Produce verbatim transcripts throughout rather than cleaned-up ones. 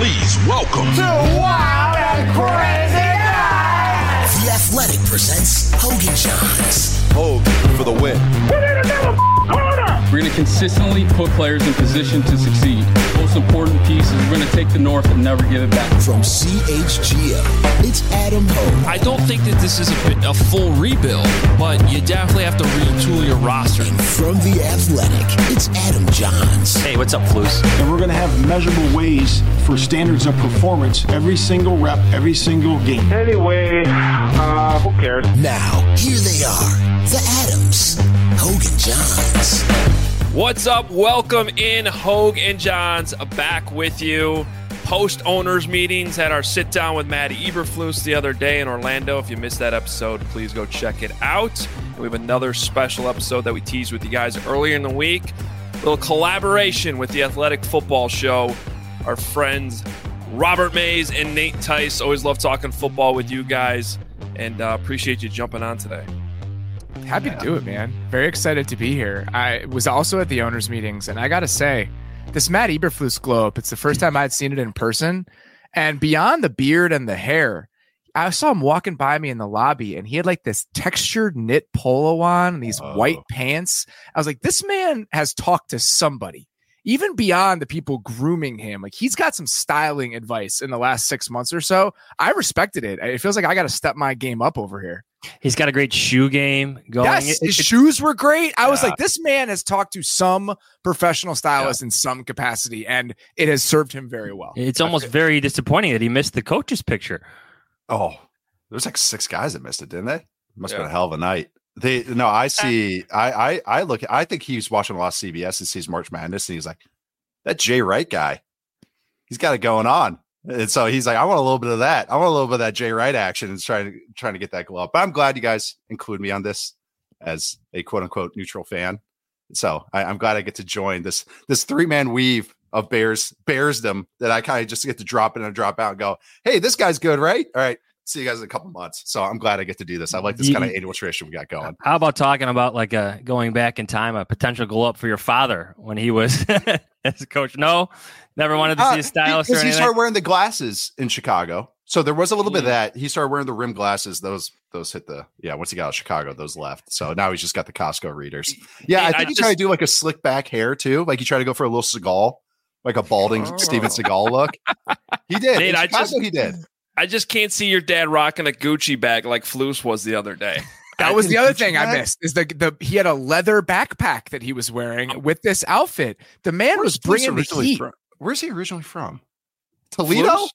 Please welcome to Wild and Crazy Guys. The Athletic presents Hogan Johns. Hogue for the win. Put in another corner. We're going to consistently put players in position to succeed. Most important piece is we're going to take the North and never give it back. From C H G O, it's Adam Hogue. I don't think that this is a, a full rebuild, but you definitely have to retool your roster. And from The Athletic, it's Adam Johns. Hey, what's up, Flus? And we're going to have measurable ways for standards of performance every single rep, every single game. Anyway, uh, who cares? Now, here they are, the Adams, Hogue and Johns. What's up? Welcome in, Hogue and Johns, back with you. Post owners meetings, had our sit down with Matt Eberflus the other day in Orlando. If you missed that episode, please go check it out. And we have another special episode that we teased with you guys earlier in the week. A little collaboration with the Athletic Football Show. Our friends Robert Mays and Nate Tice. Always love talking football with you guys, and uh, appreciate you jumping on today. Happy to do it, man. Very excited to be here. I was also at the owners' meetings, and I got to say, this Matt Eberflus glow up, it's the first time I'd seen it in person. And beyond the beard and the hair, I saw him walking by me in the lobby, and he had like this textured knit polo on and these oh. white pants. I was like, this man has talked to somebody, even beyond the people grooming him. Like, he's got some styling advice in the last six months or so. I respected it. It feels like I got to step my game up over here. He's got a great shoe game going. Yes, his it, shoes were great. I yeah. was like, this man has talked to some professional stylist yeah. in some capacity, and it has served him very well. It's almost very disappointing that he missed the coach's picture. Oh, there's like six guys that missed it, didn't they? Must yeah. have been a hell of a night. They no, I see. I I I look. I think he's watching a lot of C B S and sees March Madness, and he's like, that Jay Wright guy. He's got it going on. And so he's like, I want a little bit of that. I want a little bit of that Jay Wright action and trying to trying to get that glow up. But I'm glad you guys include me on this as a quote unquote neutral fan. So I, I'm glad I get to join this this three man weave of Bears Bearsdom that I kind of just get to drop in and drop out and go, hey, this guy's good, right? All right. See you guys in a couple months. So I'm glad I get to do this. I like this kind of annual tradition we got going. How about talking about like a going back in time, a potential glow up for your father when he was as a coach? No, never wanted to see a stylist. Because he started wearing the glasses in Chicago. So there was a little mm. bit of that. He started wearing the rim glasses. Those those hit the yeah. Once he got out of Chicago, those left. So now he's just got the Costco readers. Yeah, I think I he just, tried to do like a slick back hair too. Like he tried to go for a little Seagal, like a balding oh. Steven Seagal look. He did. Nate, in I Chicago, just, he did. I just can't see your dad rocking a Gucci bag like Flus was the other day. That was the other thing I missed is the, the he had a leather backpack that he was wearing with this outfit. The man Where's was bringing the heat. From? Where's he originally from? Toledo?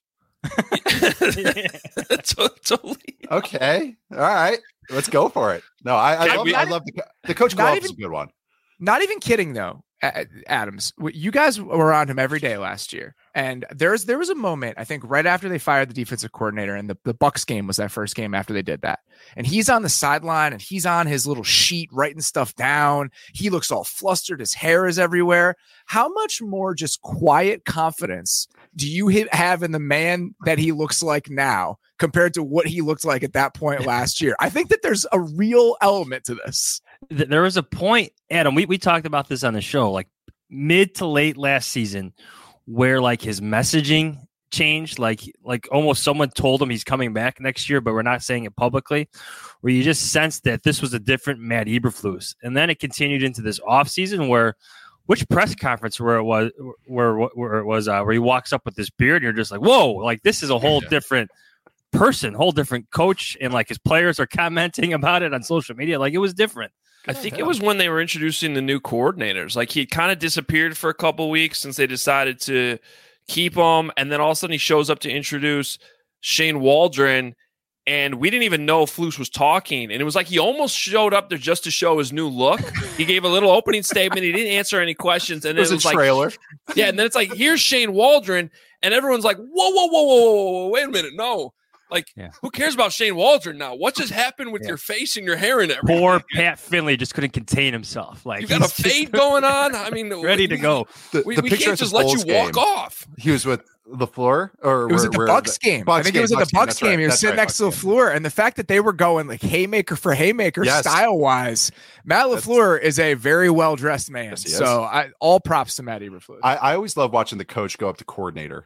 Toledo. Okay. All right. Let's go for it. No, I, I love, I love the, the coach glove is a good one. Not even kidding though. Adams, you guys were around him every day last year, and there's there was a moment I think right after they fired the defensive coordinator, and the, the Bucs game was that first game after they did that, and he's on the sideline and he's on his little sheet writing stuff down. He looks all flustered, his hair is everywhere. How much more just quiet confidence do you have in the man that he looks like now compared to what he looked like at that point last year? I think that there's a real element to this. There was a point, Adam, we, we talked about this on the show, like mid to late last season, where like his messaging changed, like like almost someone told him he's coming back next year, but we're not saying it publicly, where you just sensed that this was a different Matt Eberflus. And then it continued into this offseason where which press conference where it was where where it was uh, where he walks up with this beard and you're just like, whoa, like this is a whole yeah. different person, whole different coach, and like his players are commenting about it on social media. Like it was different. I think it was when they were introducing the new coordinators. Like he kind of disappeared for a couple weeks since they decided to keep him, and then all of a sudden he shows up to introduce Shane Waldron, and we didn't even know Flus was talking. And it was like he almost showed up there just to show his new look. He gave a little opening statement. He didn't answer any questions, and then it was, it was a like trailer. Yeah, and then it's like here's Shane Waldron, and everyone's like, whoa, whoa, whoa, whoa, whoa, whoa, wait a minute, no. Like, yeah. Who cares about Shane Waldron now? What just happened with yeah. your face and your hair and everything? Poor Pat Finley just couldn't contain himself. Like you got a fade going on. I mean, ready we, to go. The, we the we picture can't just let you walk game. off. He was with LaFleur, or it was where, at the where Bucs the, game. Bucs I think game, it was at the Bucs Bucs game. game. He was That's sitting right, next Bucs to LaFleur, and the fact that they were going like haymaker for haymaker yes. style wise, Matt LaFleur is a very well dressed man. Yes, so I, all props to Matt Eberflus. I, I always love watching the coach go up to coordinator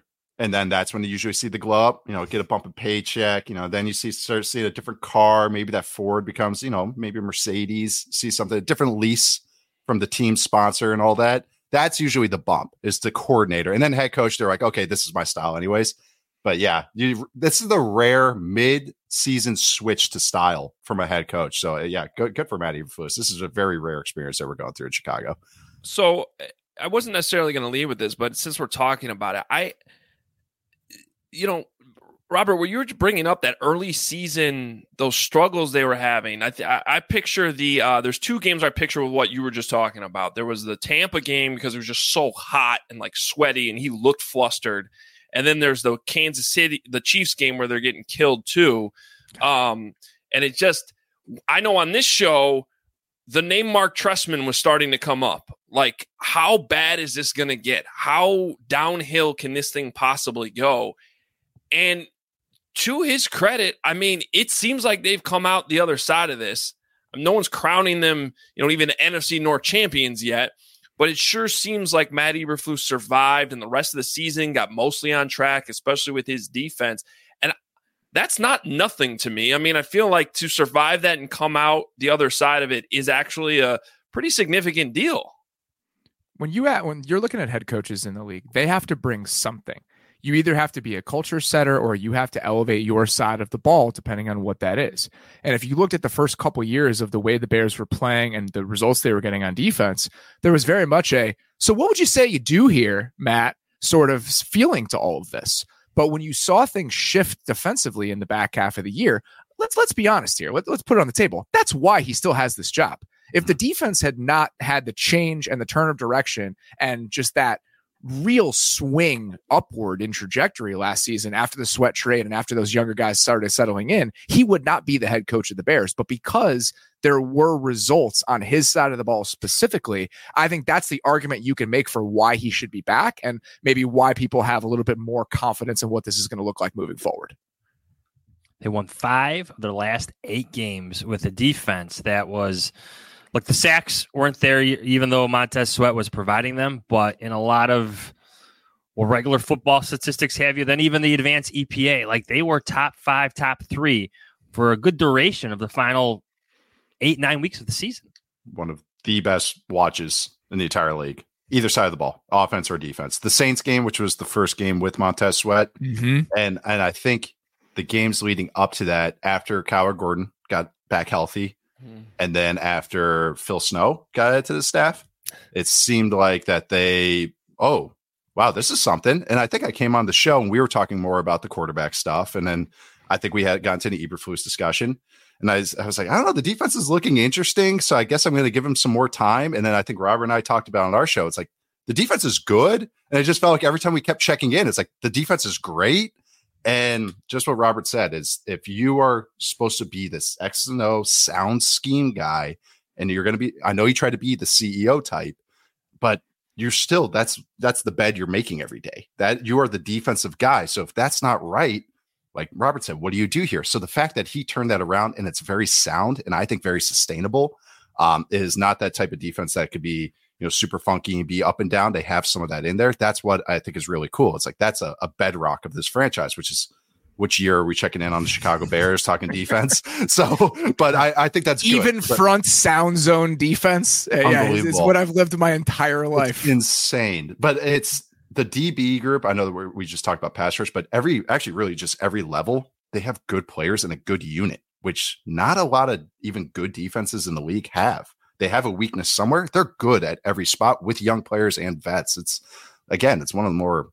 And then that's when you usually see the glow up, you know, get a bump in paycheck, you know, then you see start seeing a different car. Maybe that Ford becomes, you know, maybe a Mercedes, see something, a different lease from the team sponsor and all that. That's usually the bump, is the coordinator. And then head coach, they're like, okay, this is my style anyways. But yeah, you, this is the rare mid-season switch to style from a head coach. So yeah, good, good for Matt Eberflus. This is a very rare experience that we're going through in Chicago. So I wasn't necessarily going to leave with this, but since we're talking about it, I, you know, Robert, where you were bringing up that early season, those struggles they were having, I th- I picture the uh, there's two games I picture with what you were just talking about. There was the Tampa game because it was just so hot and like sweaty, and he looked flustered. And then there's the Kansas City, the Chiefs game where they're getting killed too. Um, and it just, I know on this show, the name Mark Trestman was starting to come up. Like, how bad is this going to get? How downhill can this thing possibly go? And to his credit, I mean, it seems like they've come out the other side of this. No one's crowning them, you know, even the N F C North champions yet, but it sure seems like Matt Eberflus survived and the rest of the season got mostly on track, especially with his defense. And that's not nothing to me. I mean, I feel like to survive that and come out the other side of it is actually a pretty significant deal. When you at when you're looking at head coaches in the league, they have to bring something. You either have to be a culture setter or you have to elevate your side of the ball, depending on what that is. And if you looked at the first couple years of the way the Bears were playing and the results they were getting on defense, there was very much a, so what would you say you do here, Matt, sort of feeling to all of this. But when you saw things shift defensively in the back half of the year, let's let's be honest here. Let, let's put it on the table. That's why he still has this job. If the defense had not had the change and the turn of direction and just that real swing upward in trajectory last season after the Sweat trade and after those younger guys started settling in, he would not be the head coach of the Bears. But because there were results on his side of the ball specifically, I think that's the argument you can make for why he should be back and maybe why people have a little bit more confidence in what this is going to look like moving forward. They won five of their last eight games with a defense that was, look, the sacks weren't there, even though Montez Sweat was providing them. But in a lot of well, regular football statistics have you, then even the advanced E P A, like they were top five, top three for a good duration of the final eight, nine weeks of the season. One of the best watches in the entire league, either side of the ball, offense or defense. The Saints game, which was the first game with Montez Sweat. Mm-hmm. And, and I think the games leading up to that, after Kyler Gordon got back healthy, and then after Phil Snow got into the staff, it seemed like that they, oh, wow, this is something. And I think I came on the show and we were talking more about the quarterback stuff. And then I think we had gotten to the Eberflus discussion. And I was, I was like, I don't know, the defense is looking interesting. So I guess I'm going to give him some more time. And then I think Robert and I talked about on our show, it's like the defense is good. And it just felt like every time we kept checking in, it's like the defense is great. And just what Robert said is if you are supposed to be this X and O sound scheme guy, and you're going to be, I know you try to be the C E O type, but you're still, that's, that's the bed you're making every day, that you are the defensive guy. So if that's not right, like Robert said, what do you do here? So the fact that he turned that around and it's very sound and I think very sustainable um, is not that type of defense that could be, you know, super funky and be up and down. They have some of that in there. That's what I think is really cool. It's like, that's a, a bedrock of this franchise, which is which year are we checking in on the Chicago Bears talking defense? So, but I, I think that's even good, front sound zone defense. Uh, yeah, it's, it's what I've lived my entire life. It's insane, but it's the D B group. I know that we're, we just talked about pass rush, but every, actually really just every level, they have good players and a good unit, which not a lot of even good defenses in the league have. They have a weakness somewhere. They're good at every spot with young players and vets. It's, again, it's one of the more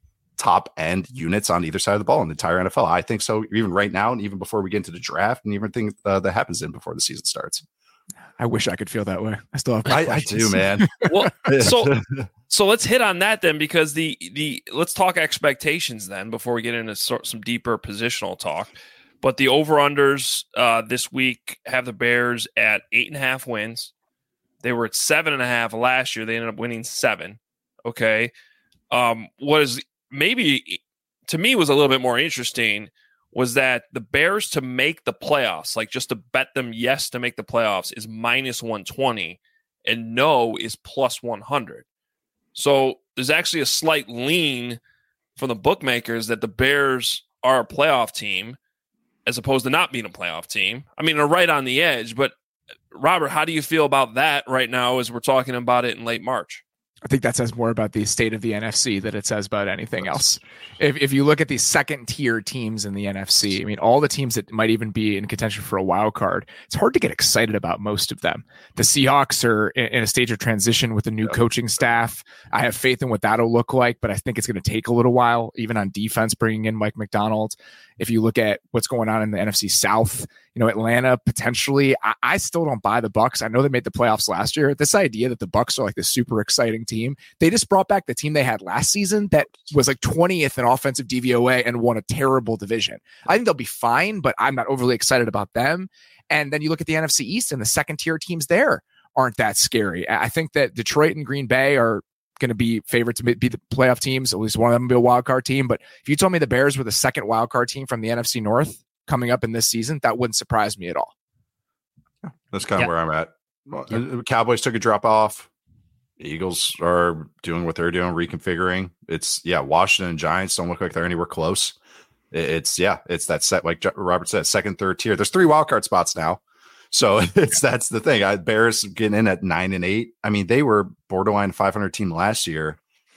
top end units on either side of the ball in the entire N F L. I think so, even right now, and even before we get into the draft, and everything uh, that happens in before the season starts. I wish I could feel that way. I still have. I, I do, man. Well, so so let's hit on that then, because the the let's talk expectations then before we get into sort, some deeper positional talk. But the over unders uh, this week have the Bears at eight and a half wins. They were at seven and a half last year. They ended up winning seven. Okay. Um, what is maybe to me was a little bit more interesting was that the Bears to make the playoffs, like just to bet them yes to make the playoffs, is minus one twenty and no is plus one hundred. So there's actually a slight lean from the bookmakers that the Bears are a playoff team as opposed to not being a playoff team. I mean, they're right on the edge, but Robert, how do you feel about that right now as we're talking about it in late March? I think that says more about the state of the N F C than it says about anything else. If if you look at the second tier teams in the N F C, I mean, all the teams that might even be in contention for a wild card, it's hard to get excited about most of them. The Seahawks are in, in a stage of transition with a new coaching staff. I have faith in what that'll look like, but I think it's going to take a little while, even on defense, bringing in Mike McDonald. If you look at what's going on in the N F C South, you know, Atlanta potentially, I, I still don't buy the Bucks. I know they made the playoffs last year. This idea that the Bucks are like this super exciting team, they just brought back the team they had last season that was like twentieth in offensive D V O A and won a terrible division. I think they'll be fine, but I'm not overly excited about them. And then you look at the N F C East and the second tier teams there aren't that scary. I think that Detroit and Green Bay are going to be favored to be the playoff teams. At least one of them will be a wild card team. But if you told me the Bears were the second wild card team from the N F C North coming up in this season, that wouldn't surprise me at all. That's kind of Yeah. where I'm at. Well, the Cowboys took a drop off. The Eagles are doing what they're doing, reconfiguring. It's yeah, Washington and Giants don't look like they're anywhere close. It- It's yeah, it's that set like Robert said, second, third tier. There's three wild card spots now. So it's that's the thing. I Bears getting in at nine and eight. I mean, they were borderline five hundred team last year,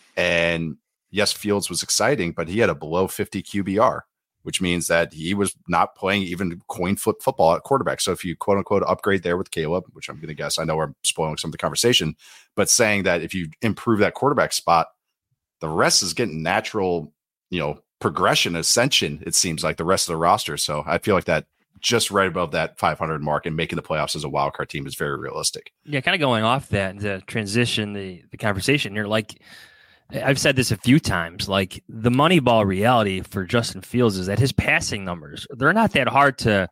and yes, Fields was exciting, but he had a below fifty Q B R, which means that he was not playing even coin flip football at quarterback. So if you quote unquote upgrade there with Caleb, which I'm going to guess, I know we're spoiling some of the conversation, but saying that if you improve that quarterback spot, the rest is getting natural, you know, progression, ascension. It seems like the rest of the roster. So I feel like that. Just right above that five hundred mark and making the playoffs as a wild card team is very realistic. Yeah, kind of going off that to transition the, the conversation. You're like, I've said this a few times, like the Moneyball reality for Justin Fields is that his passing numbers, they're not that hard to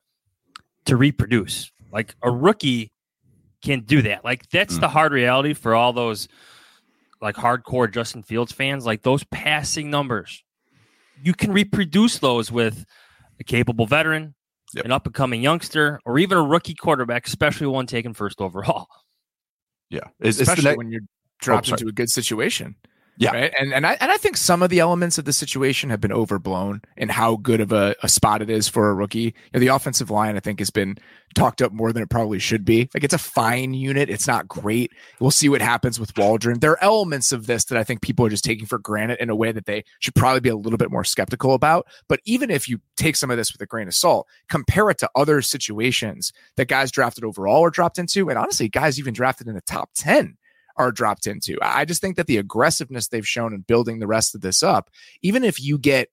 to reproduce. Like a rookie can't do that. Like that's mm. the hard reality for all those like hardcore Justin Fields fans. Like those passing numbers, you can reproduce those with a capable veteran, Yep. an up-and-coming youngster, or even a rookie quarterback, especially one taken first overall. Yeah, it's, especially it's the ne- when you're dropped oh, into a good situation. Yeah, right? and and I and I think some of the elements of the situation have been overblown in how good of a, a spot it is for a rookie. You know, the offensive line, I think, has been talked up more than it probably should be. Like it's a fine unit. It's not great. We'll see what happens with Waldron. There are elements of this that I think people are just taking for granted in a way that they should probably be a little bit more skeptical about. But even if you take some of this with a grain of salt, compare it to other situations that guys drafted overall or dropped into, and honestly, guys even drafted in the top ten are dropped into. I just think that the aggressiveness they've shown in building the rest of this up, even if you get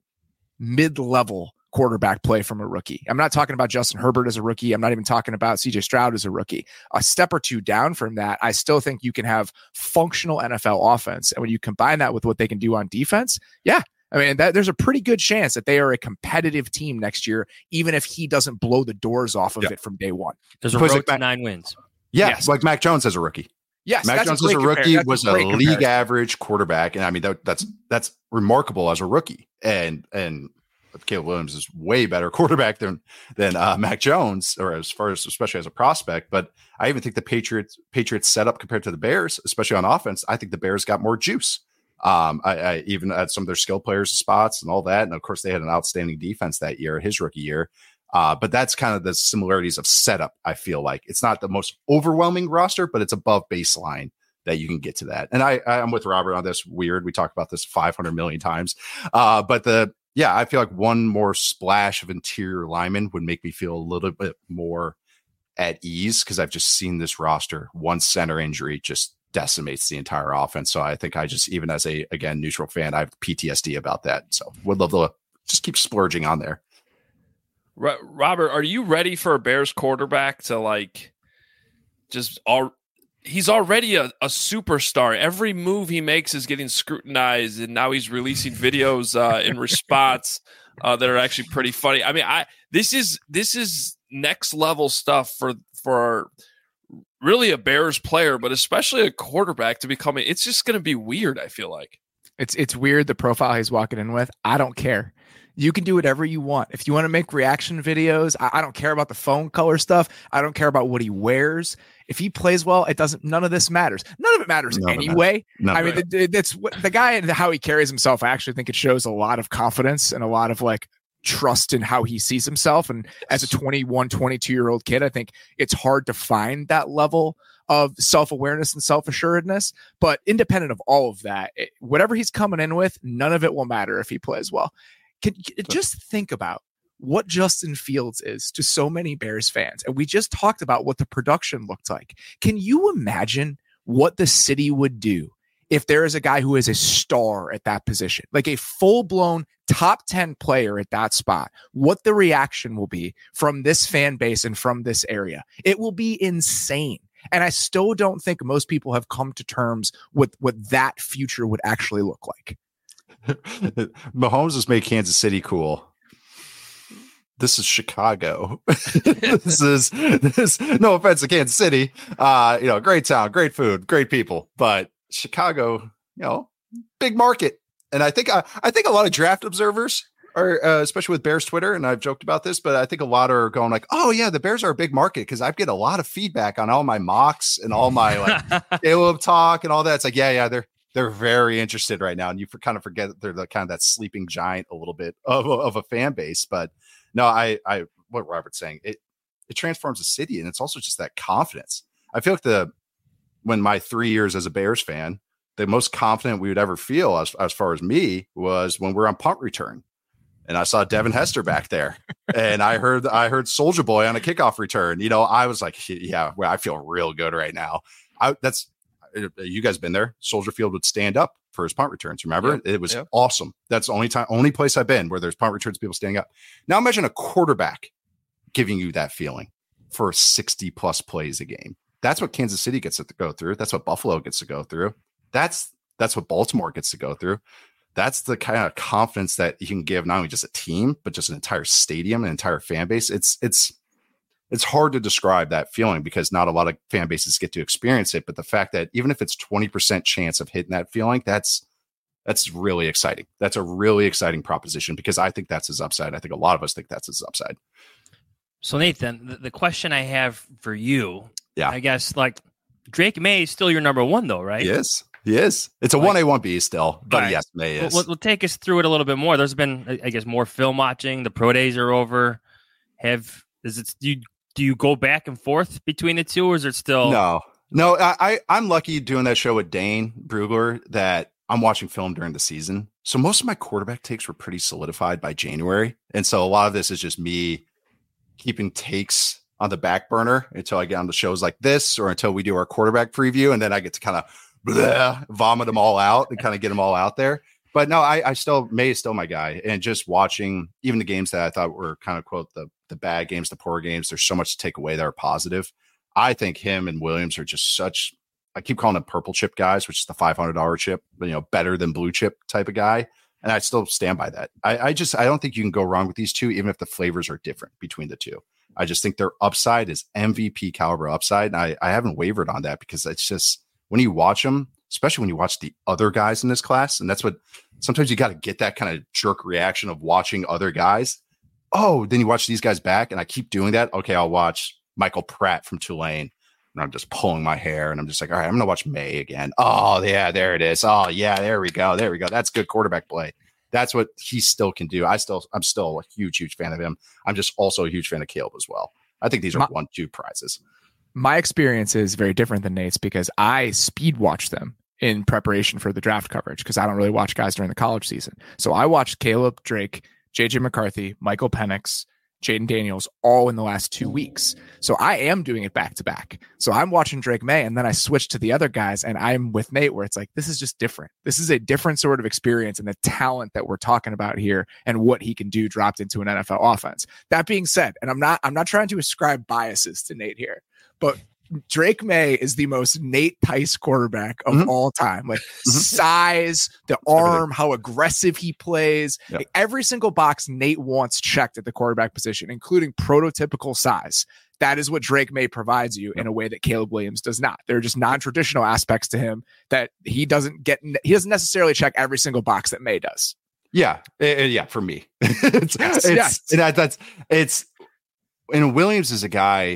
mid-level quarterback play from a rookie. I'm not talking about Justin Herbert as a rookie. I'm not even talking about C J Stroud as a rookie. A step or two down from that, I still think you can have functional N F L offense. And when you combine that with what they can do on defense, yeah, I mean, that, there's a pretty good chance that they are a competitive team next year, even if he doesn't blow the doors off of yeah. it from day one. There's a road like to Mac, nine wins. Yeah, yes. Like Mac Jones as a rookie. Yes, Mac Jones as a rookie was a, a league comparison. average quarterback, and I mean that, that's that's remarkable as a rookie. And and Caleb Williams is way better quarterback than than uh, Mac Jones, or as far as especially as a prospect. But I even think the Patriots Patriots setup compared to the Bears, especially on offense, I think the Bears got more juice. Um, I, I even had some of their skill players spots and all that, and of course they had an outstanding defense that year, his rookie year. Uh, but that's kind of the similarities of setup. I feel like it's not the most overwhelming roster, but it's above baseline that you can get to that. And I, I'm with Robert on this. Weird. We talked about this five hundred million times. Uh, but the, yeah, I feel like one more splash of interior linemen would make me feel a little bit more at ease, because I've just seen this roster. One center injury just decimates the entire offense. So I think I just, even as a, again, neutral fan, I have P T S D about that. So would love to just keep splurging on there. Robert, are you ready for a Bears quarterback to like just all? He's already a, a superstar. Every move he makes is getting scrutinized, and now he's releasing videos uh, in response uh, that are actually pretty funny. I mean, I this is this is next level stuff for for really a Bears player, but especially a quarterback to become. It's just going to be weird. I feel like it's it's weird the profile he's walking in with. I don't care. You can do whatever you want. If you want to make reaction videos, I, I don't care about the phone color stuff. I don't care about what he wears. If he plays well, it doesn't. None of this matters. None of it matters None of it anyway. None I of mean, it. th- that's what the guy and how he carries himself. I actually think it shows a lot of confidence and a lot of like trust in how he sees himself. And as a twenty-one, twenty-two year old kid, I think it's hard to find that level of self-awareness and self-assuredness. But independent of all of that, it, whatever he's coming in with, none of it will matter if he plays well. Can, just think about what Justin Fields is to so many Bears fans. And we just talked about what the production looked like. Can you imagine what the city would do if there is a guy who is a star at that position, like a full-blown top ten player at that spot, what the reaction will be from this fan base and from this area? It will be insane. And I still don't think most people have come to terms with what that future would actually look like. Mahomes has made Kansas City cool. This is Chicago. this is this. No offense to Kansas City. Uh, you know, great town, great food, great people. But Chicago, you know, big market. And I think I, I think a lot of draft observers are, uh, especially with Bears Twitter, and I've joked about this, but I think a lot are going like, "Oh yeah, the Bears are a big market," because I get a lot of feedback on all my mocks and all my like Caleb talk and all that. It's like, yeah, yeah, they're they're very interested right now, and you for, kind of forget that they're the kind of that sleeping giant a little bit of of a fan base. But no, I I what Robert's saying, it it transforms the city, and it's also just that confidence. I feel like the when my three years as a Bears fan, the most confident we would ever feel as as far as me was when we're on punt return. And I saw Devin Hester back there, and I heard I heard Soulja Boy on a kickoff return. You know, I was like, yeah, well, I feel real good right now. I, that's you guys been there. Soldier Field would stand up for his punt returns. Remember, yeah, it was yeah. awesome. That's the only time, only place I've been where there's punt returns, people standing up. Now imagine a quarterback giving you that feeling for sixty plus plays a game. That's what Kansas City gets to go through. That's what Buffalo gets to go through. That's that's what Baltimore gets to go through. That's the kind of confidence that you can give not only just a team, but just an entire stadium, an entire fan base. It's it's it's hard to describe that feeling because not a lot of fan bases get to experience it. But the fact that even if it's twenty percent chance of hitting that feeling, that's that's really exciting. That's a really exciting proposition because I think that's his upside. I think a lot of us think that's his upside. So Nathan, the, the question I have for you, yeah, I guess like Drake May is still your number one though, right? Yes. He is. It's a one A, one B still, but right. yes, May is. Well, well, take us through it a little bit more. There's been, I guess, more film watching. The pro days are over. Have is it? Do you do you go back and forth between the two, or is it still? No, no. I, I I'm lucky doing that show with Dane Brugler that I'm watching film during the season. So most of my quarterback takes were pretty solidified by January, and so a lot of this is just me keeping takes on the back burner until I get on the shows like this, or until we do our quarterback preview, and then I get to kind of. Bleh, vomit them all out and kind of get them all out there. But no, I, I still May is still my guy. And just watching even the games that I thought were kind of quote the the bad games, the poor games, there's so much to take away that are positive. I think him and Williams are just such, I keep calling them purple chip guys, which is the five hundred dollars chip, but you know, better than blue chip type of guy. And I still stand by that. I, I just, I don't think you can go wrong with these two, even if the flavors are different between the two. I just think their upside is M V P caliber upside. And I, I haven't wavered on that because it's just, when you watch them, especially when you watch the other guys in this class, and that's what sometimes you got to get that kind of jerk reaction of watching other guys. Oh, then you watch these guys back, and I keep doing that. Okay, I'll watch Michael Pratt from Tulane, and I'm just pulling my hair, and I'm just like, all right, I'm gonna watch May again. Oh yeah, there it is. Oh yeah, there we go, there we go. That's good quarterback play. That's what he still can do. I still, I'm still a huge, huge fan of him. I'm just also a huge fan of Caleb as well. I think these are my- one, two prizes. My experience is very different than Nate's because I speed watch them in preparation for the draft coverage because I don't really watch guys during the college season. So I watched Caleb Drake, J J McCarthy, Michael Penix, Jaden Daniels all in the last two weeks. So I am doing it back to back. So I'm watching Drake May and then I switch to the other guys and I'm with Nate where it's like, this is just different. This is a different sort of experience and the talent that we're talking about here and what he can do dropped into an N F L offense. That being said, and I'm not, I'm not trying to ascribe biases to Nate here, but Drake May is the most Nate Tice quarterback of mm-hmm. all time. Like mm-hmm. size, the arm, how aggressive he plays. Yep. Like every single box Nate wants checked at the quarterback position, including prototypical size. That is what Drake May provides you in a way that Caleb Williams does not. There are just non-traditional aspects to him that he doesn't get. He doesn't necessarily check every single box that May does. Yeah. Uh, yeah. For me, it's, yes, it's, yes. That, that's it's, and Williams is a guy.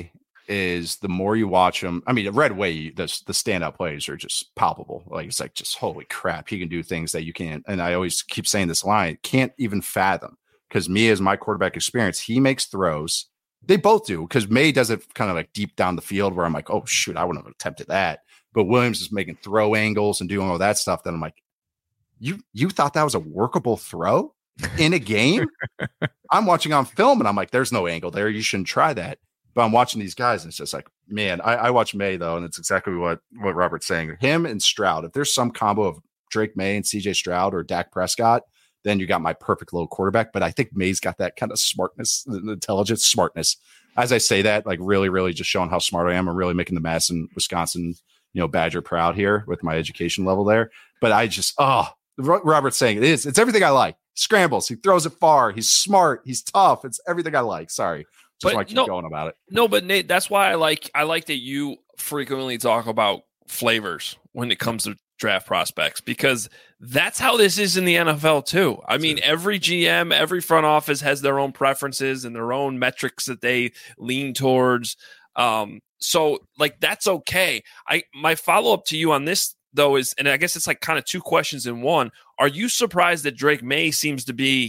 is the more you watch him. I mean, right away, the the standout plays are just palpable. Like it's like just holy crap, he can do things that you can't. And I always keep saying this line, can't even fathom. Because me, as my quarterback experience, he makes throws. They both do, because May does it kind of like deep down the field where I'm like, oh shoot, I wouldn't have attempted that. But Williams is making throw angles and doing all that stuff. That I'm like, you you thought that was a workable throw in a game? I'm watching on film and I'm like, there's no angle there. You shouldn't try that. But I'm watching these guys and it's just like, man, I, I watch May though, and it's exactly what what Robert's saying. Him and Stroud. If there's some combo of Drake May and C J Stroud or Dak Prescott, then you got my perfect little quarterback. But I think May's got that kind of smartness, intelligence, smartness. As I say that, like really, really just showing how smart I am. I'm really making the Madison, Wisconsin, you know, Badger proud here with my education level there. But I just, oh, Robert's saying it is. It's everything I like. Scrambles. He throws it far. He's smart. He's tough. It's everything I like. Sorry. Just want to keep no, going about it. No, but Nate, that's why I like I like that you frequently talk about flavors when it comes to draft prospects, because that's how this is in the N F L too. I mean, every G M, every front office has their own preferences and their own metrics that they lean towards. Um, so like, that's okay. I, my follow-up to you on this though is, and I guess it's like kind of two questions in one. Are you surprised that Drake May seems to be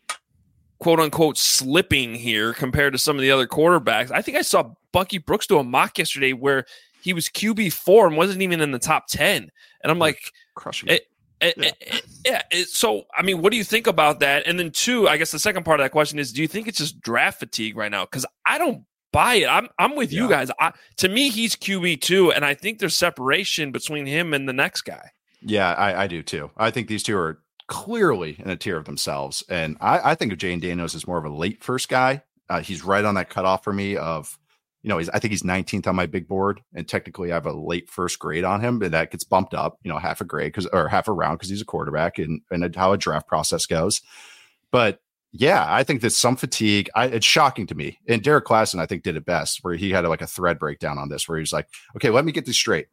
quote unquote slipping here compared to some of the other quarterbacks? I think I saw Bucky Brooks do a mock yesterday where he was Q B four and wasn't even in the top ten. And I'm like, crushing it. It, yeah. It, yeah it, so, I mean, what do you think about that? And then two, I guess the second part of that question is, do you think it's just draft fatigue right now? Because I don't buy it. I'm I'm with yeah. you guys. I, to me, he's Q B two, and I think there's separation between him and the next guy. Yeah, I, I do too. I think these two are clearly in a tier of themselves. And I, I think of Jane Daniels as more of a late first guy. Uh, he's right on that cutoff for me of, you know, he's, I think he's nineteenth on my big board, and technically I have a late first grade on him, but that gets bumped up, you know, half a grade because or half a round because he's a quarterback and, and how a draft process goes. But yeah, I think there's some fatigue. I, it's shocking to me. And Derek Klassen, I think, did it best, where he had a, like a thread breakdown on this, where he's like, okay, let me get this straight.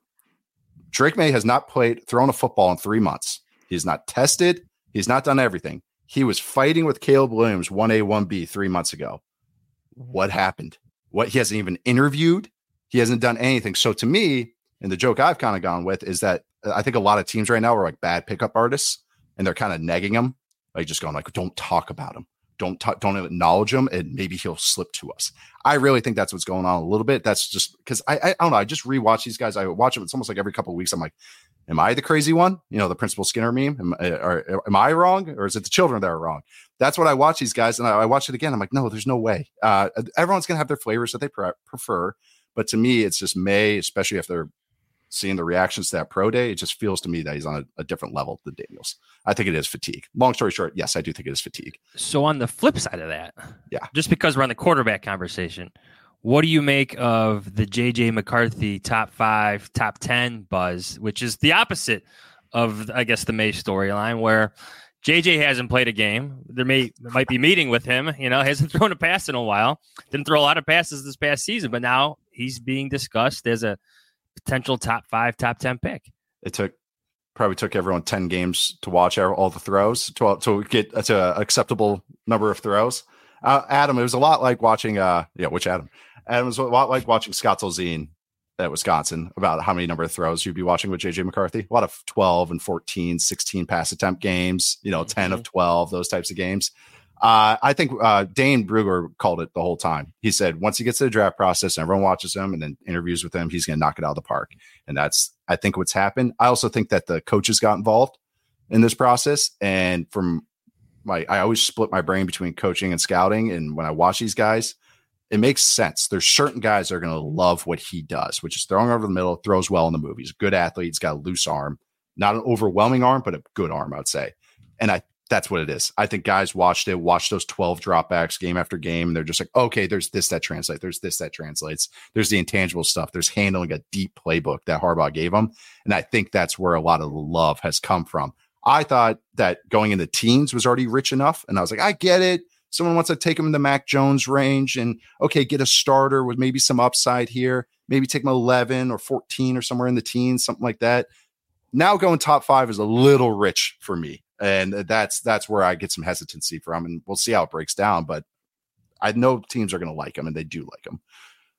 Drake May has not played, thrown a football in three months. He's not tested. He's not done everything. He was fighting with Caleb Williams one A, one B three months ago. What happened? What, he hasn't even interviewed. He hasn't done anything. So to me, and the joke I've kind of gone with is that I think a lot of teams right now are like bad pickup artists, and they're kind of negging him, like just going like, don't talk about him. Don't talk, don't acknowledge him, and maybe he'll slip to us. I really think that's what's going on a little bit. That's just because I, I, I don't know. I just rewatch these guys. I watch them. It's almost like every couple of weeks. I'm like, am I the crazy one? You know, the Principal Skinner meme. Am, or, am I wrong, or is it the children that are wrong? That's what I watch these guys, and I, I watch it again. I'm like, no, there's no way. Uh, everyone's gonna have their flavors that they pre- prefer, but to me, it's just May, especially if they're seeing the reactions to that pro day. It just feels to me that he's on a, a different level than Daniels. I think it is fatigue. Long story short, yes, I do think it is fatigue. So on the flip side of that, yeah, just because we're on the quarterback conversation, what do you make of the J J McCarthy top five, top ten buzz, which is the opposite of, I guess, the May storyline, where J J hasn't played a game. There may there might be meeting with him. You know, hasn't thrown a pass in a while. Didn't throw a lot of passes this past season, but now he's being discussed as a potential top five, top ten pick. It took probably took everyone ten games to watch all the throws to to get to an acceptable number of throws. Uh, Adam, it was a lot like watching. Uh, yeah, which Adam? Adam was a lot like watching Scott Zolzine at Wisconsin about how many number of throws you'd be watching with J J McCarthy. A lot of twelve and fourteen, sixteen pass attempt games, you know, mm-hmm. ten of twelve, those types of games. Uh, I think uh, Dane Brugler called it the whole time. He said, once he gets to the draft process and everyone watches him and then interviews with him, he's going to knock it out of the park. And that's, I think, what's happened. I also think that the coaches got involved in this process. And from my, I always split my brain between coaching and scouting. And when I watch these guys, it makes sense. There's certain guys that are going to love what he does, which is throwing over the middle, throws well in the movies. Good athlete. He's got a loose arm, not an overwhelming arm, but a good arm, I'd say. And I, that's what it is. I think guys watched it, watched those twelve dropbacks game after game. And they're just like, okay, there's this that translates. There's this that translates. There's the intangible stuff. There's handling a deep playbook that Harbaugh gave him. And I think that's where a lot of the love has come from. I thought that going in the teens was already rich enough. And I was like, I get it. Someone wants to take him in the Mac Jones range and, okay, get a starter with maybe some upside here. Maybe take him eleven or fourteen or somewhere in the teens, something like that. Now going top five is a little rich for me. And that's that's where I get some hesitancy from. And we'll see how it breaks down. But I know teams are going to like him, and they do like him.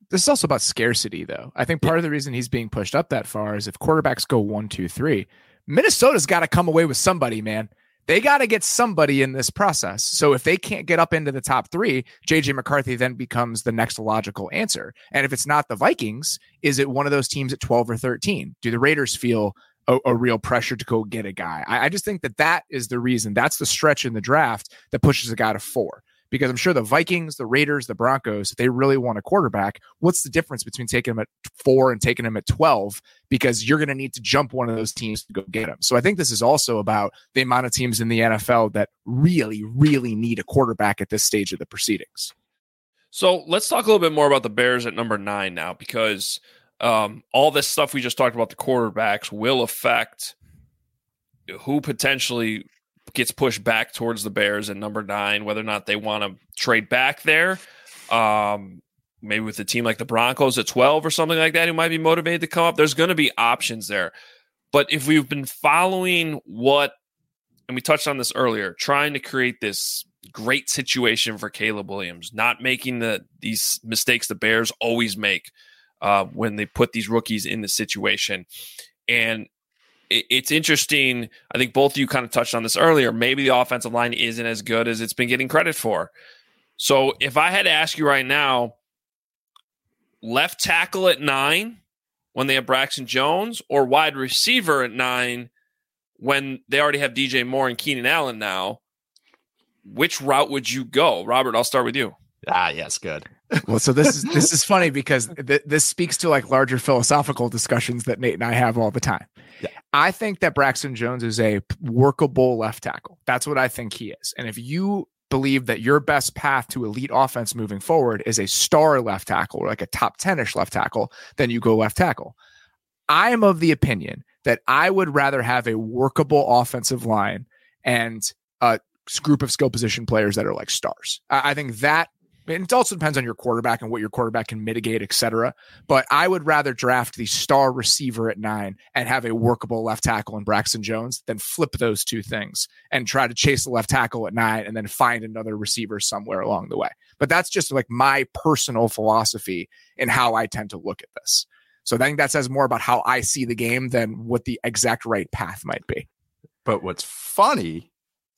this is also about scarcity, though. I think part of the reason he's being pushed up that far is if quarterbacks go one, two, three, Minnesota's got to come away with somebody, man. They got to get somebody in this process. So if they can't get up into the top three, J J McCarthy then becomes the next logical answer. And if it's not the Vikings, is it one of those teams at twelve or thirteen? Do the Raiders feel a, a real pressure to go get a guy? I, I just think that that is the reason. That's the stretch in the draft that pushes a guy to four. Because I'm sure the Vikings, the Raiders, the Broncos, if they really want a quarterback, what's the difference between taking them at four and taking them at twelve? Because you're going to need to jump one of those teams to go get them. So I think this is also about the amount of teams in the N F L that really, really need a quarterback at this stage of the proceedings. So let's talk a little bit more about the Bears at number nine now, because um, all this stuff we just talked about, the quarterbacks, will affect who potentially gets pushed back towards the Bears at number nine, whether or not they want to trade back there. Um, maybe with a team like the Broncos at twelve or something like that, who might be motivated to come up. There's going to be options there. But if we've been following what, and we touched on this earlier, trying to create this great situation for Caleb Williams, not making the these mistakes the Bears always make uh, when they put these rookies in the situation. And it's interesting. I think both of you kind of touched on this earlier. Maybe the offensive line isn't as good as it's been getting credit for. So if I had to ask you right now, left tackle at nine when they have Braxton Jones, or wide receiver at nine when they already have D J Moore and Keenan Allen now, which route would you go? Robert, I'll start with you. Ah, yes, good. Well, so this is this is funny because th- this speaks to like larger philosophical discussions that Nate and I have all the time. Yeah. I think that Braxton Jones is a workable left tackle. That's what I think he is. And if you believe that your best path to elite offense moving forward is a star left tackle, or like a top ten-ish left tackle, then you go left tackle. I am of the opinion that I would rather have a workable offensive line and a group of skill position players that are like stars. I, I think that, and it also depends on your quarterback and what your quarterback can mitigate, et cetera. But I would rather draft the star receiver at nine and have a workable left tackle in Braxton Jones than flip those two things and try to chase the left tackle at nine and then find another receiver somewhere along the way. But that's just like my personal philosophy in how I tend to look at this. So I think that says more about how I see the game than what the exact right path might be. But what's funny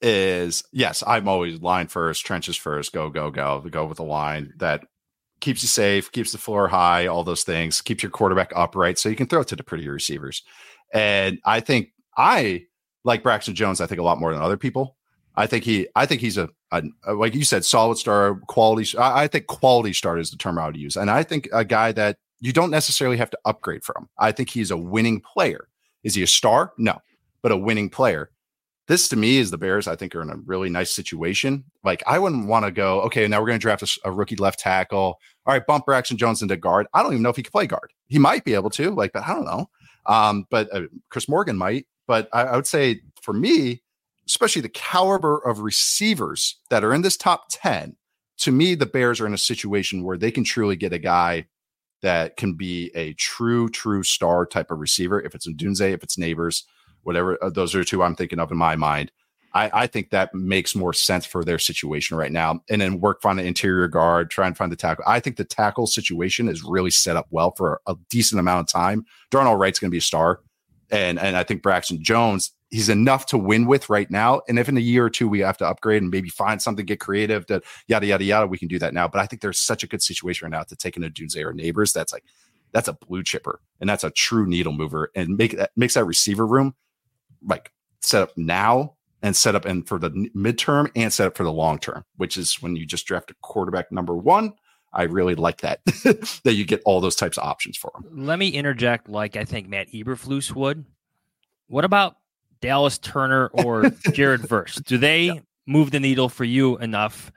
is, yes, I'm always line first, trenches first, go, go, go, go with the line that keeps you safe, keeps the floor high, all those things, keeps your quarterback upright so you can throw it to the prettier receivers. And I think I like Braxton Jones, I think a lot more than other people. I think he, I think he's a, a like you said, solid star, quality. I, I think quality star is the term I would use. And I think a guy that you don't necessarily have to upgrade from. I think he's a winning player. Is he a star? No, but a winning player. This to me is the Bears, I think, are in a really nice situation. Like, I wouldn't want to go, okay, now we're going to draft a, a rookie left tackle. All right, bump Braxton Jones into guard. I don't even know if he can play guard. He might be able to, like, but I don't know. Um, but uh, Chris Morgan might. But I, I would say for me, especially the caliber of receivers that are in this top ten, to me, the Bears are in a situation where they can truly get a guy that can be a true, true star type of receiver. If it's Ndunze, if it's Neighbors, whatever, uh, those are two I'm thinking of in my mind. I, I think that makes more sense for their situation right now. And then work on the interior guard, try and find the tackle. I think the tackle situation is really set up well for a decent amount of time. Darnell Wright's going to be a star. And, and I think Braxton Jones, he's enough to win with right now. And if in a year or two we have to upgrade and maybe find something, get creative, that yada, yada, yada, we can do that now. But I think there's such a good situation right now to take in a Ndunze or Neighbors. That's like, that's a blue chipper. And that's a true needle mover, and make that makes that receiver room like set up now and set up and for the midterm and set up for the long term, which is when you just draft a quarterback number one. I really like that, that you get all those types of options for them. Let me interject, like I think Matt Eberflus would. What about Dallas Turner or Jared Verse? Do they yeah. move the needle for you enough?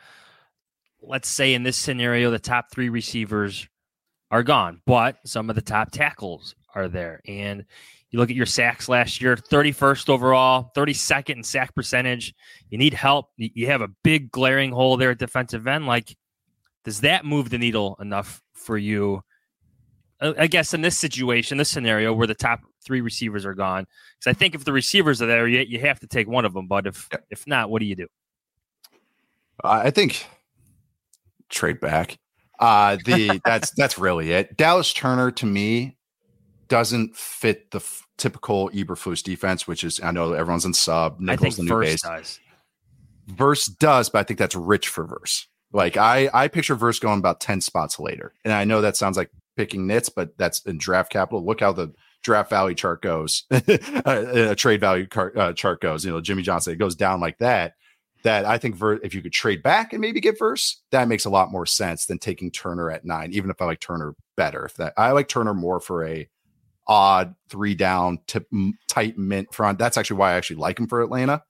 Let's say in this scenario, the top three receivers are gone, but some of the top tackles are there. And you look at your sacks last year, thirty-first overall, thirty-second in sack percentage. You need help. You have a big glaring hole there at defensive end. Like, does that move the needle enough for you? I guess in this situation, this scenario where the top three receivers are gone, because I think if the receivers are there, you, you have to take one of them. But if yeah. if not, what do you do? I think trade back. Uh, the that's that's really it. Dallas Turner to me doesn't fit the f- typical Eberflus defense, which is I know everyone's in sub. Nichols I think the new Verse base. does. Verse does, but I think that's rich for Verse. Like I, I picture Verse going about ten spots later, and I know that sounds like picking nits, but that's in draft capital. Look how the draft value chart goes, a trade value car, uh, chart goes. You know, Jimmy Johnson, it goes down like that. That I think Ver- if you could trade back and maybe get Verse, that makes a lot more sense than taking Turner at nine. Even if I like Turner better, if that I like Turner more for a odd three down tip, tight mint front. That's actually why I actually like him for Atlanta.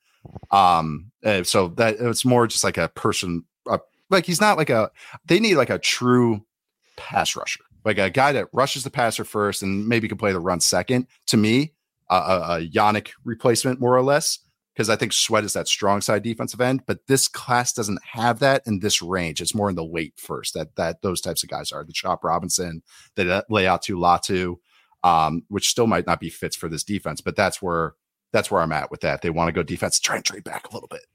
Um, uh, so that it's more just like a person, uh, like he's not like a. They need like a true pass rusher, like a guy that rushes the passer first and maybe can play the run second. To me, uh, a, a Yannick replacement more or less. Because I think Sweat is that strong side defensive end, but this class doesn't have that in this range. It's more in the late first that that those types of guys are the Chop Robinson, the lay out to Latu, um, which still might not be fits for this defense, but that's where that's where I'm at with that. They want to go defense, try and trade back a little bit,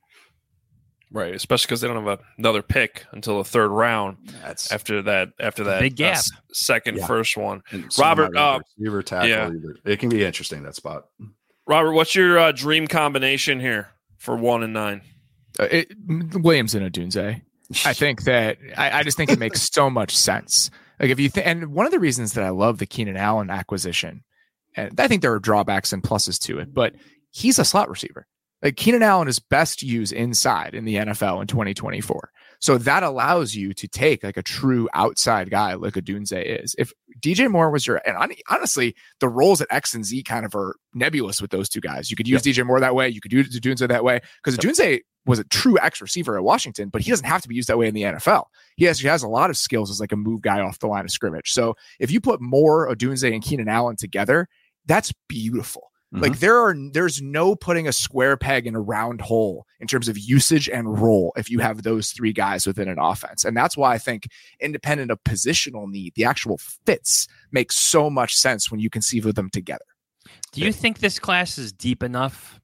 right? Especially because they don't have a, another pick until the third round. That's after that. After that, big gap. Uh, second, yeah. first one. And Robert, uh, receiver tackle, yeah. either. It can be interesting that spot. Robert, what's your uh, dream combination here for one and nine? Uh, it, Williams and Odunze. I think that I, I just think it makes so much sense. Like if you think, and one of the reasons that I love the Keenan Allen acquisition, and I think there are drawbacks and pluses to it, but he's a slot receiver. Like Keenan Allen is best used inside in the N F L in twenty twenty-four. So that allows you to take like a true outside guy like Odunze is. If D J Moore was your, and honestly, the roles at X and Z kind of are nebulous with those two guys. You could use yep. D J Moore that way. You could use Odunze that way because yep. Odunze was a true X receiver at Washington, but he doesn't have to be used that way in the N F L. He has, he has a lot of skills as like a move guy off the line of scrimmage. So if you put Moore, Odunze, and Keenan Allen together, that's beautiful. Mm-hmm. Like there are, there's no putting a square peg in a round hole in terms of usage and role if you have those three guys within an offense. And that's why I think independent of positional need, the actual fits make so much sense when you conceive of them together. Do you think this class is deep enough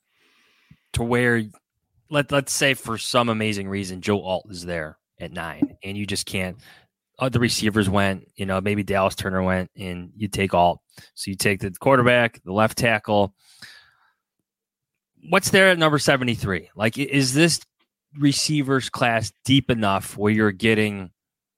to where, let, let's say for some amazing reason, Joe Alt is there at nine and you just can't, other receivers went, you know, maybe Dallas Turner went and you take Alt. So you take the quarterback, the left tackle. What's there at number seventy-three? Like, is this receivers class deep enough where you're getting,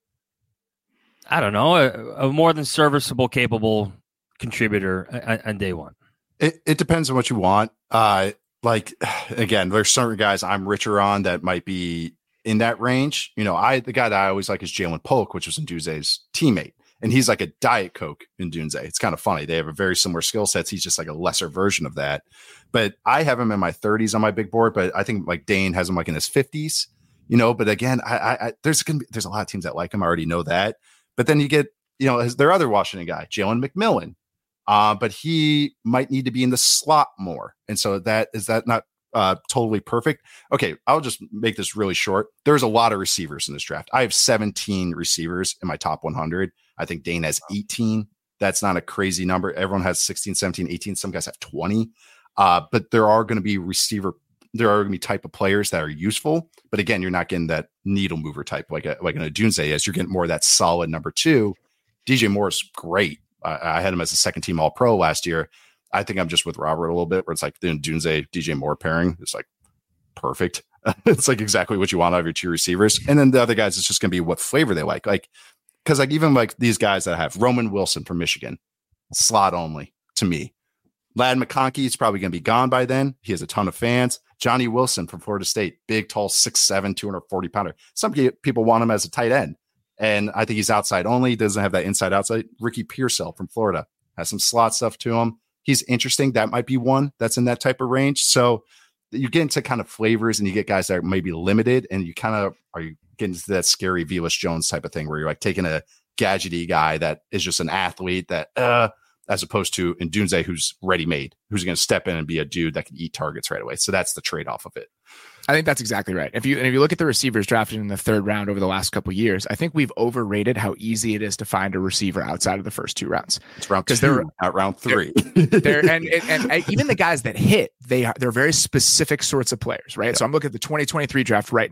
I don't know, a, a more than serviceable, capable contributor on, on day one? It, it depends on what you want. Uh, like, again, there's certain guys I'm richer on that might be in that range. You know, I the guy that I always like is Jalen Polk, which was Ndunze's teammate. And he's like a Diet Coke in Ndunze. It's kind of funny. They have a very similar skill sets. He's just like a lesser version of that. But I have him in my thirties on my big board, but I think like Dane has him like in his fifties, you know, but again, I, I, I there's gonna be, there's a lot of teams that like him. I already know that. But then you get, you know, his, their other Washington guy, Jalen McMillan. Uh, but he might need to be in the slot more. And so that is that not uh, totally perfect? Okay, I'll just make this really short. There's a lot of receivers in this draft. I have seventeen receivers in my top one hundred. I think Dane has eighteen. That's not a crazy number. Everyone has sixteen, seventeen, eighteen. Some guys have twenty. Uh, but there are going to be receiver, there are going to be type of players that are useful. But again, you're not getting that needle mover type like a, like an Odunze is. You're getting more of that solid number two. D J Moore is great. I, I had him as a second team All Pro last year. I think I'm just with Robert a little bit where it's like the Odunze D J Moore pairing. It's like perfect. It's like exactly what you want out of your two receivers. And then the other guys, it's just going to be what flavor they like. Like, because like even like these guys that I have, Roman Wilson from Michigan, slot only to me. Ladd McConkey is probably going to be gone by then. He has a ton of fans. Johnny Wilson from Florida State, big, tall, six seven, two hundred forty pounder. Some people want him as a tight end. And I think he's outside only. He doesn't have that inside outside. Ricky Pearsall from Florida has some slot stuff to him. He's interesting. That might be one that's in that type of range. So you get into kind of flavors and you get guys that are maybe limited and you kind of are you getting into that scary Velus Jones type of thing where you're like taking a gadgety guy that is just an athlete that, uh, as opposed to Ndunze, who's ready-made, who's going to step in and be a dude that can eat targets right away. So that's the trade-off of it. I think that's exactly right. If you and if you look at the receivers drafted in the third round over the last couple of years, I think we've overrated how easy it is to find a receiver outside of the first two rounds. It's round two, they're, not round three. They're, they're, and, and, and even the guys that hit, they are they're very specific sorts of players, right? Yeah. So I'm looking at the twenty twenty-three draft right now.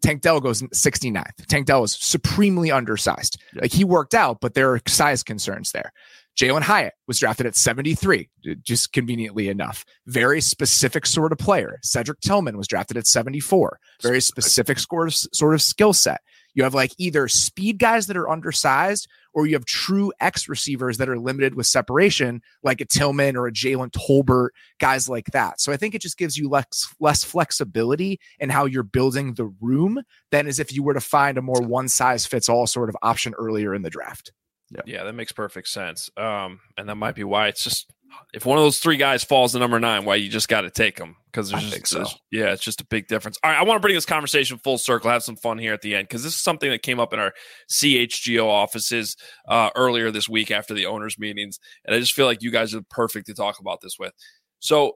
Tank Dell goes sixty-ninth. Tank Dell was supremely undersized. Yeah. Like he worked out, but there are size concerns there. Jalen Hyatt was drafted at seventy-three, just conveniently enough. Very specific sort of player. Cedric Tillman was drafted at seventy-four. Very specific sort of, sort of skill set. You have like either speed guys that are undersized, or you have true X receivers that are limited with separation, like a Tillman or a Jalen Tolbert, guys like that. So I think it just gives you less, less flexibility in how you're building the room than as if you were to find a more one size fits all sort of option earlier in the draft. Yeah. yeah, that makes perfect sense. Um, and that might be why it's just, if one of those three guys falls to number nine, why you just got to take them. Because there's I just, think so. there's- yeah, it's just a big difference. All right, I want to bring this conversation full circle, have some fun here at the end, because this is something that came up in our C H G O offices uh, earlier this week after the owners' meetings. And I just feel like you guys are perfect to talk about this with. So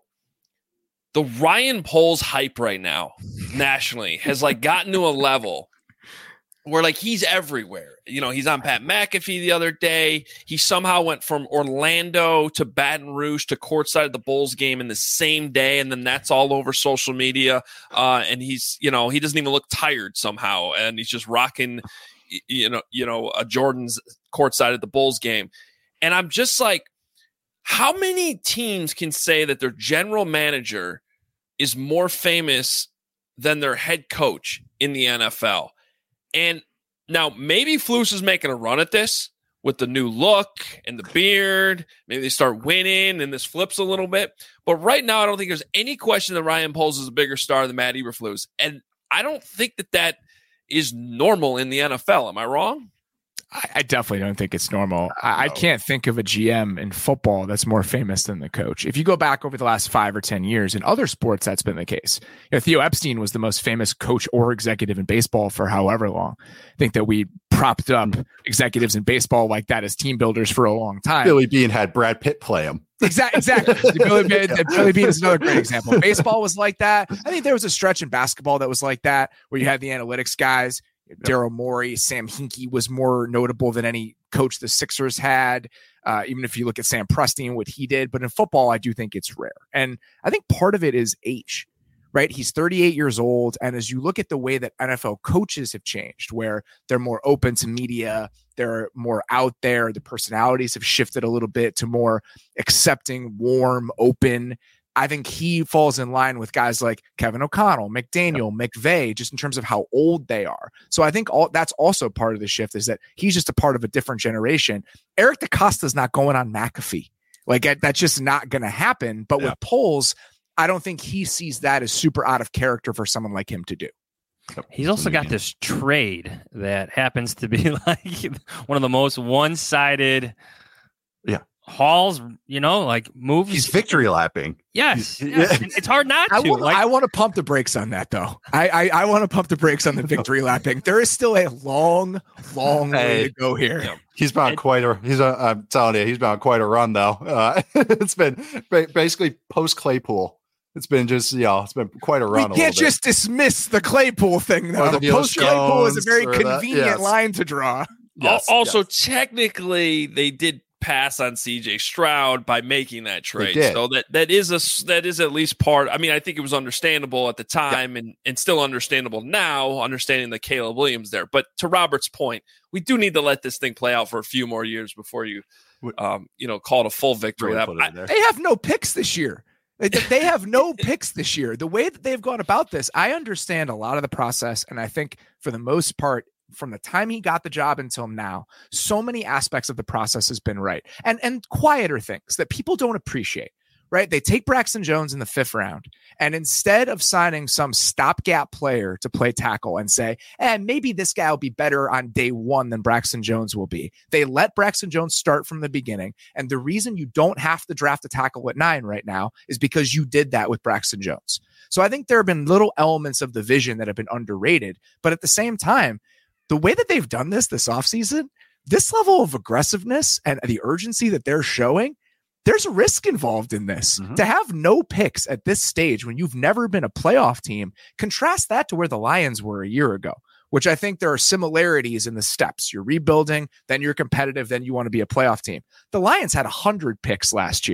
the Ryan Poles hype right now, nationally, has like gotten to a level where like he's everywhere. You know, he's on Pat McAfee the other day. He somehow went from Orlando to Baton Rouge to courtside at the Bulls game in the same day, and then that's all over social media. Uh, and he's, you know, he doesn't even look tired somehow, and he's just rocking, you know, you know, a Jordan's courtside at the Bulls game. And I'm just like, how many teams can say that their general manager is more famous than their head coach in the N F L? And now maybe Flus is making a run at this with the new look and the beard. Maybe they start winning and this flips a little bit. But right now, I don't think there's any question that Ryan Poles is a bigger star than Matt Eberflus. And I don't think that that is normal in the N F L. Am I wrong? I, I definitely don't think it's normal. I, I can't think of a G M in football that's more famous than the coach. If you go back over the last five or ten years, in other sports, that's been the case. You know, Theo Epstein was the most famous coach or executive in baseball for however long. I think that we propped up executives in baseball like that as team builders for a long time. Billy Beane had Brad Pitt play him. Exactly. Exactly. Billy, Beane, Billy Beane is another great example. Baseball was like that. I think there was a stretch in basketball that was like that, where you had the analytics guys. Daryl Morey, Sam Hinkie was more notable than any coach the Sixers had. Uh, even if you look at Sam Presti and what he did, but in football, I do think it's rare. And I think part of it is age, right? He's thirty-eight years old. And as you look at the way that N F L coaches have changed, where they're more open to media, they're more out there, the personalities have shifted a little bit to more accepting, warm, open. I think he falls in line with guys like Kevin O'Connell, McDaniel, McVay, just in terms of how old they are. So I think all that's also part of the shift, is that he's just a part of a different generation. Eric DeCosta's not going on McAfee. Like that's just not going to happen. But yeah. with Poles, I don't think he sees that as super out of character for someone like him to do. He's also got this trade that happens to be like one of the most one-sided yeah. hauls, you know, like moves. He's victory lapping. Yes, yes. Yeah. It's hard not to. I want, like, I want to pump the brakes on that, though. I I, I want to pump the brakes on the victory lapping. There is still a long, long hey, way to go here. Yeah. He's been on quite a. He's a. I'm telling you, he's been on quite a run though. Uh, it's been basically post Claypool. It's been just, you know, it's been quite a run. We can't a just dismiss the Claypool thing, though. Post Claypool is a very convenient yes. line to draw. Yes, also, yes. technically, they did pass on C J Stroud by making that trade, so that that is a that is at least part. I mean, I think it was understandable at the time, yeah. and and still understandable now, understanding the Caleb Williams there. But to Robert's point, we do need to let this thing play out for a few more years before you, um, you know, call it a full victory. That, I, they have no picks this year. They have no picks this year. The way that they've gone about this, I understand a lot of the process. And I think for the most part, from the time he got the job until now, so many aspects of the process has been right. And, and quieter things that people don't appreciate, right? They take Braxton Jones in the fifth round, and instead of signing some stopgap player to play tackle and say, and eh, maybe this guy will be better on day one than Braxton Jones will be, they let Braxton Jones start from the beginning. And the reason you don't have to draft a tackle at nine right now is because you did that with Braxton Jones. So I think there have been little elements of the vision that have been underrated, but at the same time, the way that they've done this this offseason, this level of aggressiveness and the urgency that they're showing, there's a risk involved in this. Mm-hmm. To have no picks at this stage when you've never been a playoff team, contrast that to where the Lions were a year ago, which I think there are similarities in the steps. You're rebuilding, then you're competitive, then you want to be a playoff team. The Lions had one hundred picks last year.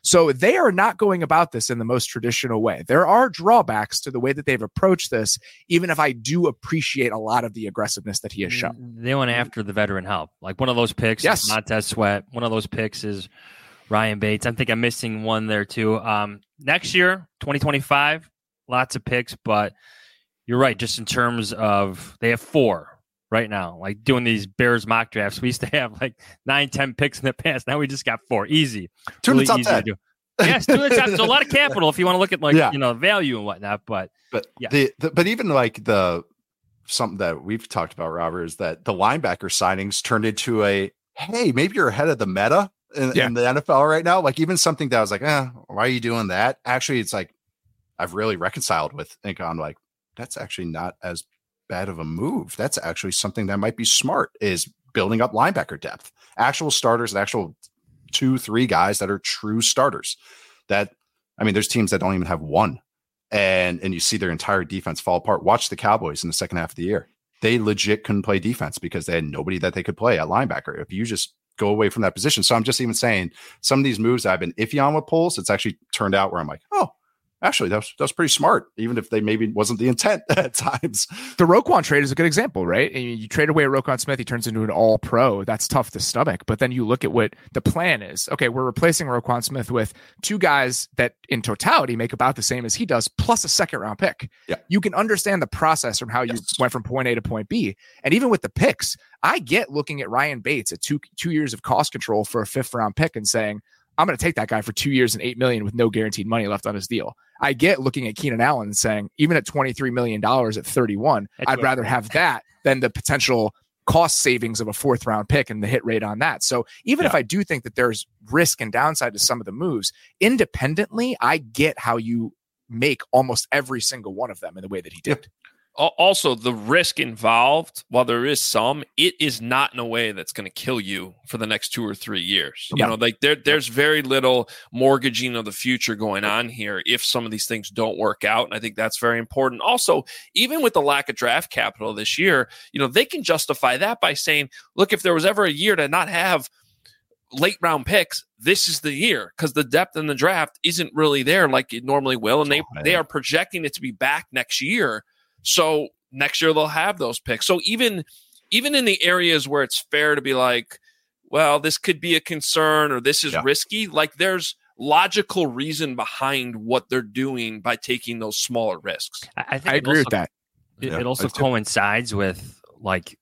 So they are not going about this in the most traditional way. There are drawbacks to the way that they've approached this, even if I do appreciate a lot of the aggressiveness that he has shown. They went after the veteran help. Like one of those picks Yes. is Montez Sweat. One of those picks is Ryan Bates. I think I'm missing one there too. Um, next year, twenty twenty-five, lots of picks, but you're right. Just in terms of, they have four right now. Like doing these Bears mock drafts, we used to have like nine, ten picks in the past. Now we just got four. Easy. Two in the top easy ten. to do. Yes, two in the top. So a lot of capital if you want to look at like Yeah. you know value and whatnot. But But yeah. the, the but even like the something that we've talked about, Robert, is that the linebacker signings turned into a hey, maybe you're ahead of the meta in, Yeah. in the N F L right now. Like even something that I was like, eh, why are you doing that? Actually, it's like I've really reconciled with think on like that's actually not as bad of a move. That's actually something that might be smart is building up linebacker depth, actual starters, and actual two, three guys that are true starters. That I mean, there's teams that don't even have one. And and you see their entire defense fall apart. Watch the Cowboys in the second half of the year. They legit couldn't play defense because they had nobody that they could play at linebacker. If you just go away from that position. So I'm just even saying some of these moves that I've been iffy on with polls, it's actually turned out where I'm like, oh, actually, that was, that was pretty smart, even if they maybe wasn't the intent at times. The Roquan trade is a good example, right? And you trade away Roquan Smith, he turns into an all pro. That's tough to stomach. But then you look at what the plan is. Okay, we're replacing Roquan Smith with two guys that in totality make about the same as he does, plus a second round pick. Yeah. You can understand the process from how you Yes. went from point A to point B. And even with the picks, I get looking at Ryan Bates at two two years of cost control for a fifth round pick and saying, I'm going to take that guy for two years and eight million with no guaranteed money left on his deal. I get looking at Keenan Allen and saying, even at twenty-three million dollars at thirty-one, That's I'd what- rather have that than the potential cost savings of a fourth round pick and the hit rate on that. So even Yeah. if I do think that there's risk and downside to some of the moves, independently, I get how you make almost every single one of them in the way that he did. Al- Also, the risk involved, while there is some, it is not in a way that's going to kill you for the next two or three years. You No. know, like there, there's very little mortgaging of the future going on here if some of these things don't work out. And I think that's very important. Also, even with the lack of draft capital this year, you know, they can justify that by saying, look, if there was ever a year to not have late round picks, this is the year, because the depth in the draft isn't really there like it normally will. And they, Oh, man. they are projecting it to be back next year. So next year they'll have those picks. So even even in the areas where it's fair to be like, well, this could be a concern or this is Yeah. risky, like there's logical reason behind what they're doing by taking those smaller risks. I, I think I it agree also- with that. It, Yeah, it also I do. coincides with like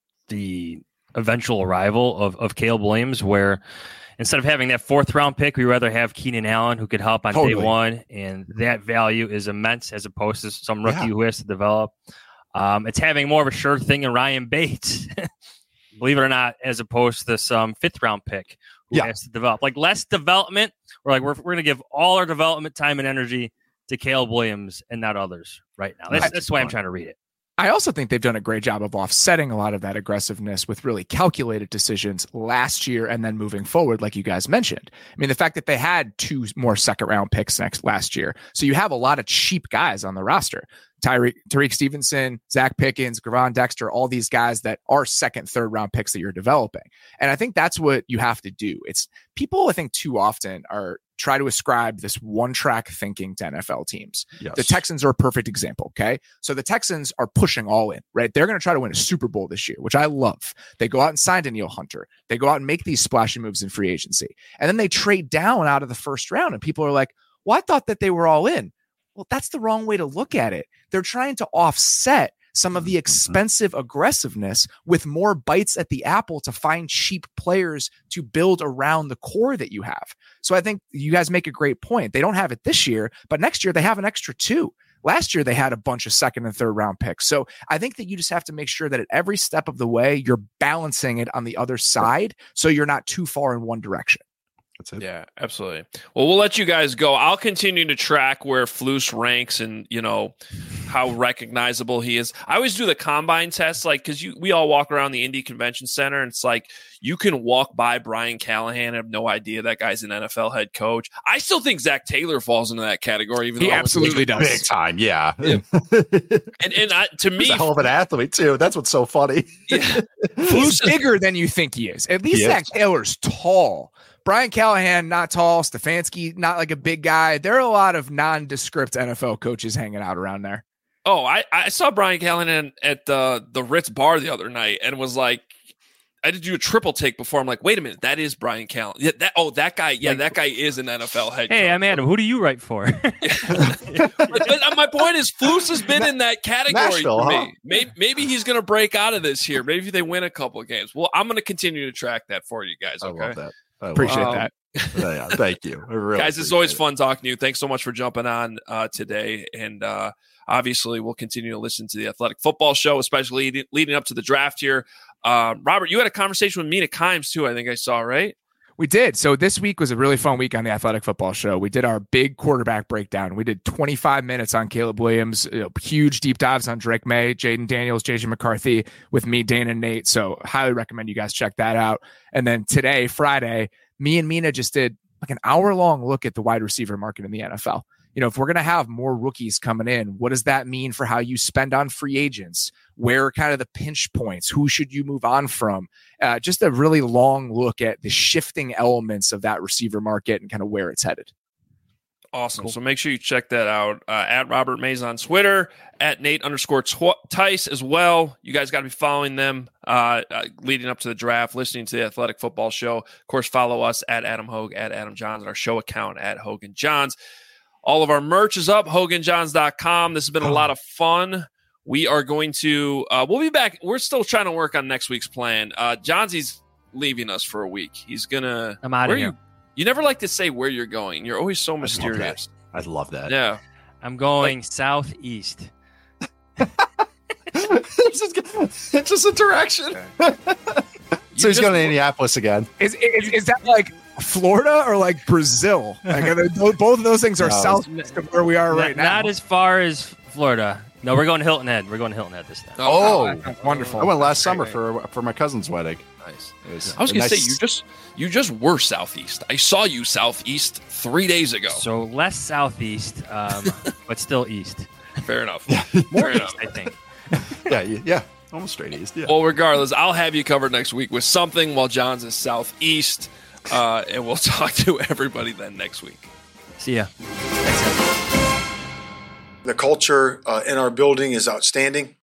the eventual arrival of, of Caleb Williams, where instead of having that fourth round pick, we rather have Keenan Allen who could help on Totally. day one. And that value is immense as opposed to some rookie Yeah. who has to develop. Um, it's having more of a sure thing in Ryan Bates, believe it or not, as opposed to some fifth round pick who Yeah. has to develop. Like less development. We're like, we're, we're going to give all our development time and energy to Caleb Williams and not others right now. That's, That's that's the way I'm fine. trying to read it. I also think they've done a great job of offsetting a lot of that aggressiveness with really calculated decisions last year and then moving forward, like you guys mentioned. I mean, the fact that they had two more second round picks next last year. So you have a lot of cheap guys on the roster. Tyreek, Tariq Stevenson, Zach Pickens, Gravon Dexter, all these guys that are second, third round picks that you're developing. And I think that's what you have to do. It's people, I think, too often are try to ascribe this one track thinking to N F L teams. Yes. The Texans are a perfect example. Okay. So the Texans are pushing all in, right? They're going to try to win a Super Bowl this year, which I love. They go out and sign Danielle Hunter. They go out and make these splashy moves in free agency. And then they trade down out of the first round. And people are like, well, I thought that they were all in. Well, that's the wrong way to look at it. They're trying to offset some of the expensive aggressiveness with more bites at the apple to find cheap players to build around the core that you have. So I think you guys make a great point. They don't have it this year, but next year they have an extra two. Last year they had a bunch of second and third round picks. So I think that you just have to make sure that at every step of the way, you're balancing it on the other side so you're not too far in one direction. That's it. Yeah, absolutely. Well, we'll let you guys go. I'll continue to track where Flus ranks and, you know, how recognizable he is. I always do the combine test, like, because you we all walk around the Indy Convention Center, and it's like you can walk by Brian Callahan and have no idea that guy's an N F L head coach. I still think Zach Taylor falls into that category. Even He though I was- absolutely does. Big time, yeah. Yeah. And and I, to me, He's a hell of an athlete too. That's what's so funny. yeah, He's bigger than you think he is. At least He Zach is. Taylor's tall, Brian Callahan, not tall. Stefanski, not like a big guy. There are a lot of nondescript N F L coaches hanging out around there. Oh, I, I saw Brian Callahan at the the Ritz bar the other night and was like, I did do a triple take before. I'm like, wait a minute, that is Brian Callahan. Yeah, that oh, that guy, yeah, that guy is an N F L head coach. Hey, I'm Adam. Who do you write for? but, but my point is, Flus has been in that category Nashville, for me. huh? Maybe, maybe he's going to break out of this here. Maybe they win a couple of games. Well, I'm going to continue to track that for you guys. Okay, I love that. I love Appreciate Um, that. yeah, thank you. I really guys, it's always appreciate fun talking to you. Thanks so much for jumping on uh, today. And uh, obviously, we'll continue to listen to the Athletic Football Show, especially leading, leading up to the draft here. Uh, Robert, you had a conversation with Mina Kimes, too, I think I saw, right? We did. So this week was a really fun week on the Athletic Football Show. We did our big quarterback breakdown. We did twenty-five minutes on Caleb Williams, you know, huge deep dives on Drake May, Jaden Daniels, J J McCarthy with me, Dana, and Nate. So highly recommend you guys check that out. And then today, Friday, me and Mina just did like an hour long look at the wide receiver market in the N F L. You know, if we're going to have more rookies coming in, what does that mean for how you spend on free agents? Where are kind of the pinch points? Who should you move on from? Uh, just a really long look at the shifting elements of that receiver market and kind of where it's headed. Awesome. Cool. So make sure you check that out uh, at Robert Mays on Twitter, at Nate underscore tw- Tice as well. You guys got to be following them uh, uh, leading up to the draft, listening to the Athletic Football Show. Of course, follow us at Adam Hogue, at Adam Johns, and our show account at Hogan Johns. All of our merch is up, hogan johns dot com. This has been a lot of fun. We are going to, uh, we'll be back. We're still trying to work on next week's plan. Uh, Johnsy's leaving us for a week. He's going to, I'm out of here. You, you never like to say where you're going. You're always so mysterious. I love that. Yeah. I'm going like, southeast. it's, just, it's just a direction. So he's going to Indianapolis again. Is, is is that like Florida or like Brazil? Like they, both of those things are no, south of where we are not, right now. Not as far as Florida. No, we're going to Hilton Head. We're going to Hilton Head this time. Oh, oh wonderful! I went last summer for for my cousin's wedding. Nice. Was I was going nice... to say you just you just were southeast. I saw you southeast three days ago. So less southeast, um, but still east. Fair enough. More Fair east, enough. I think. Yeah, yeah. Almost straight east. Yeah. Well, regardless, I'll have you covered next week with something while John's is southeast, uh, and we'll talk to everybody then next week. See ya. The culture uh, in our building is outstanding.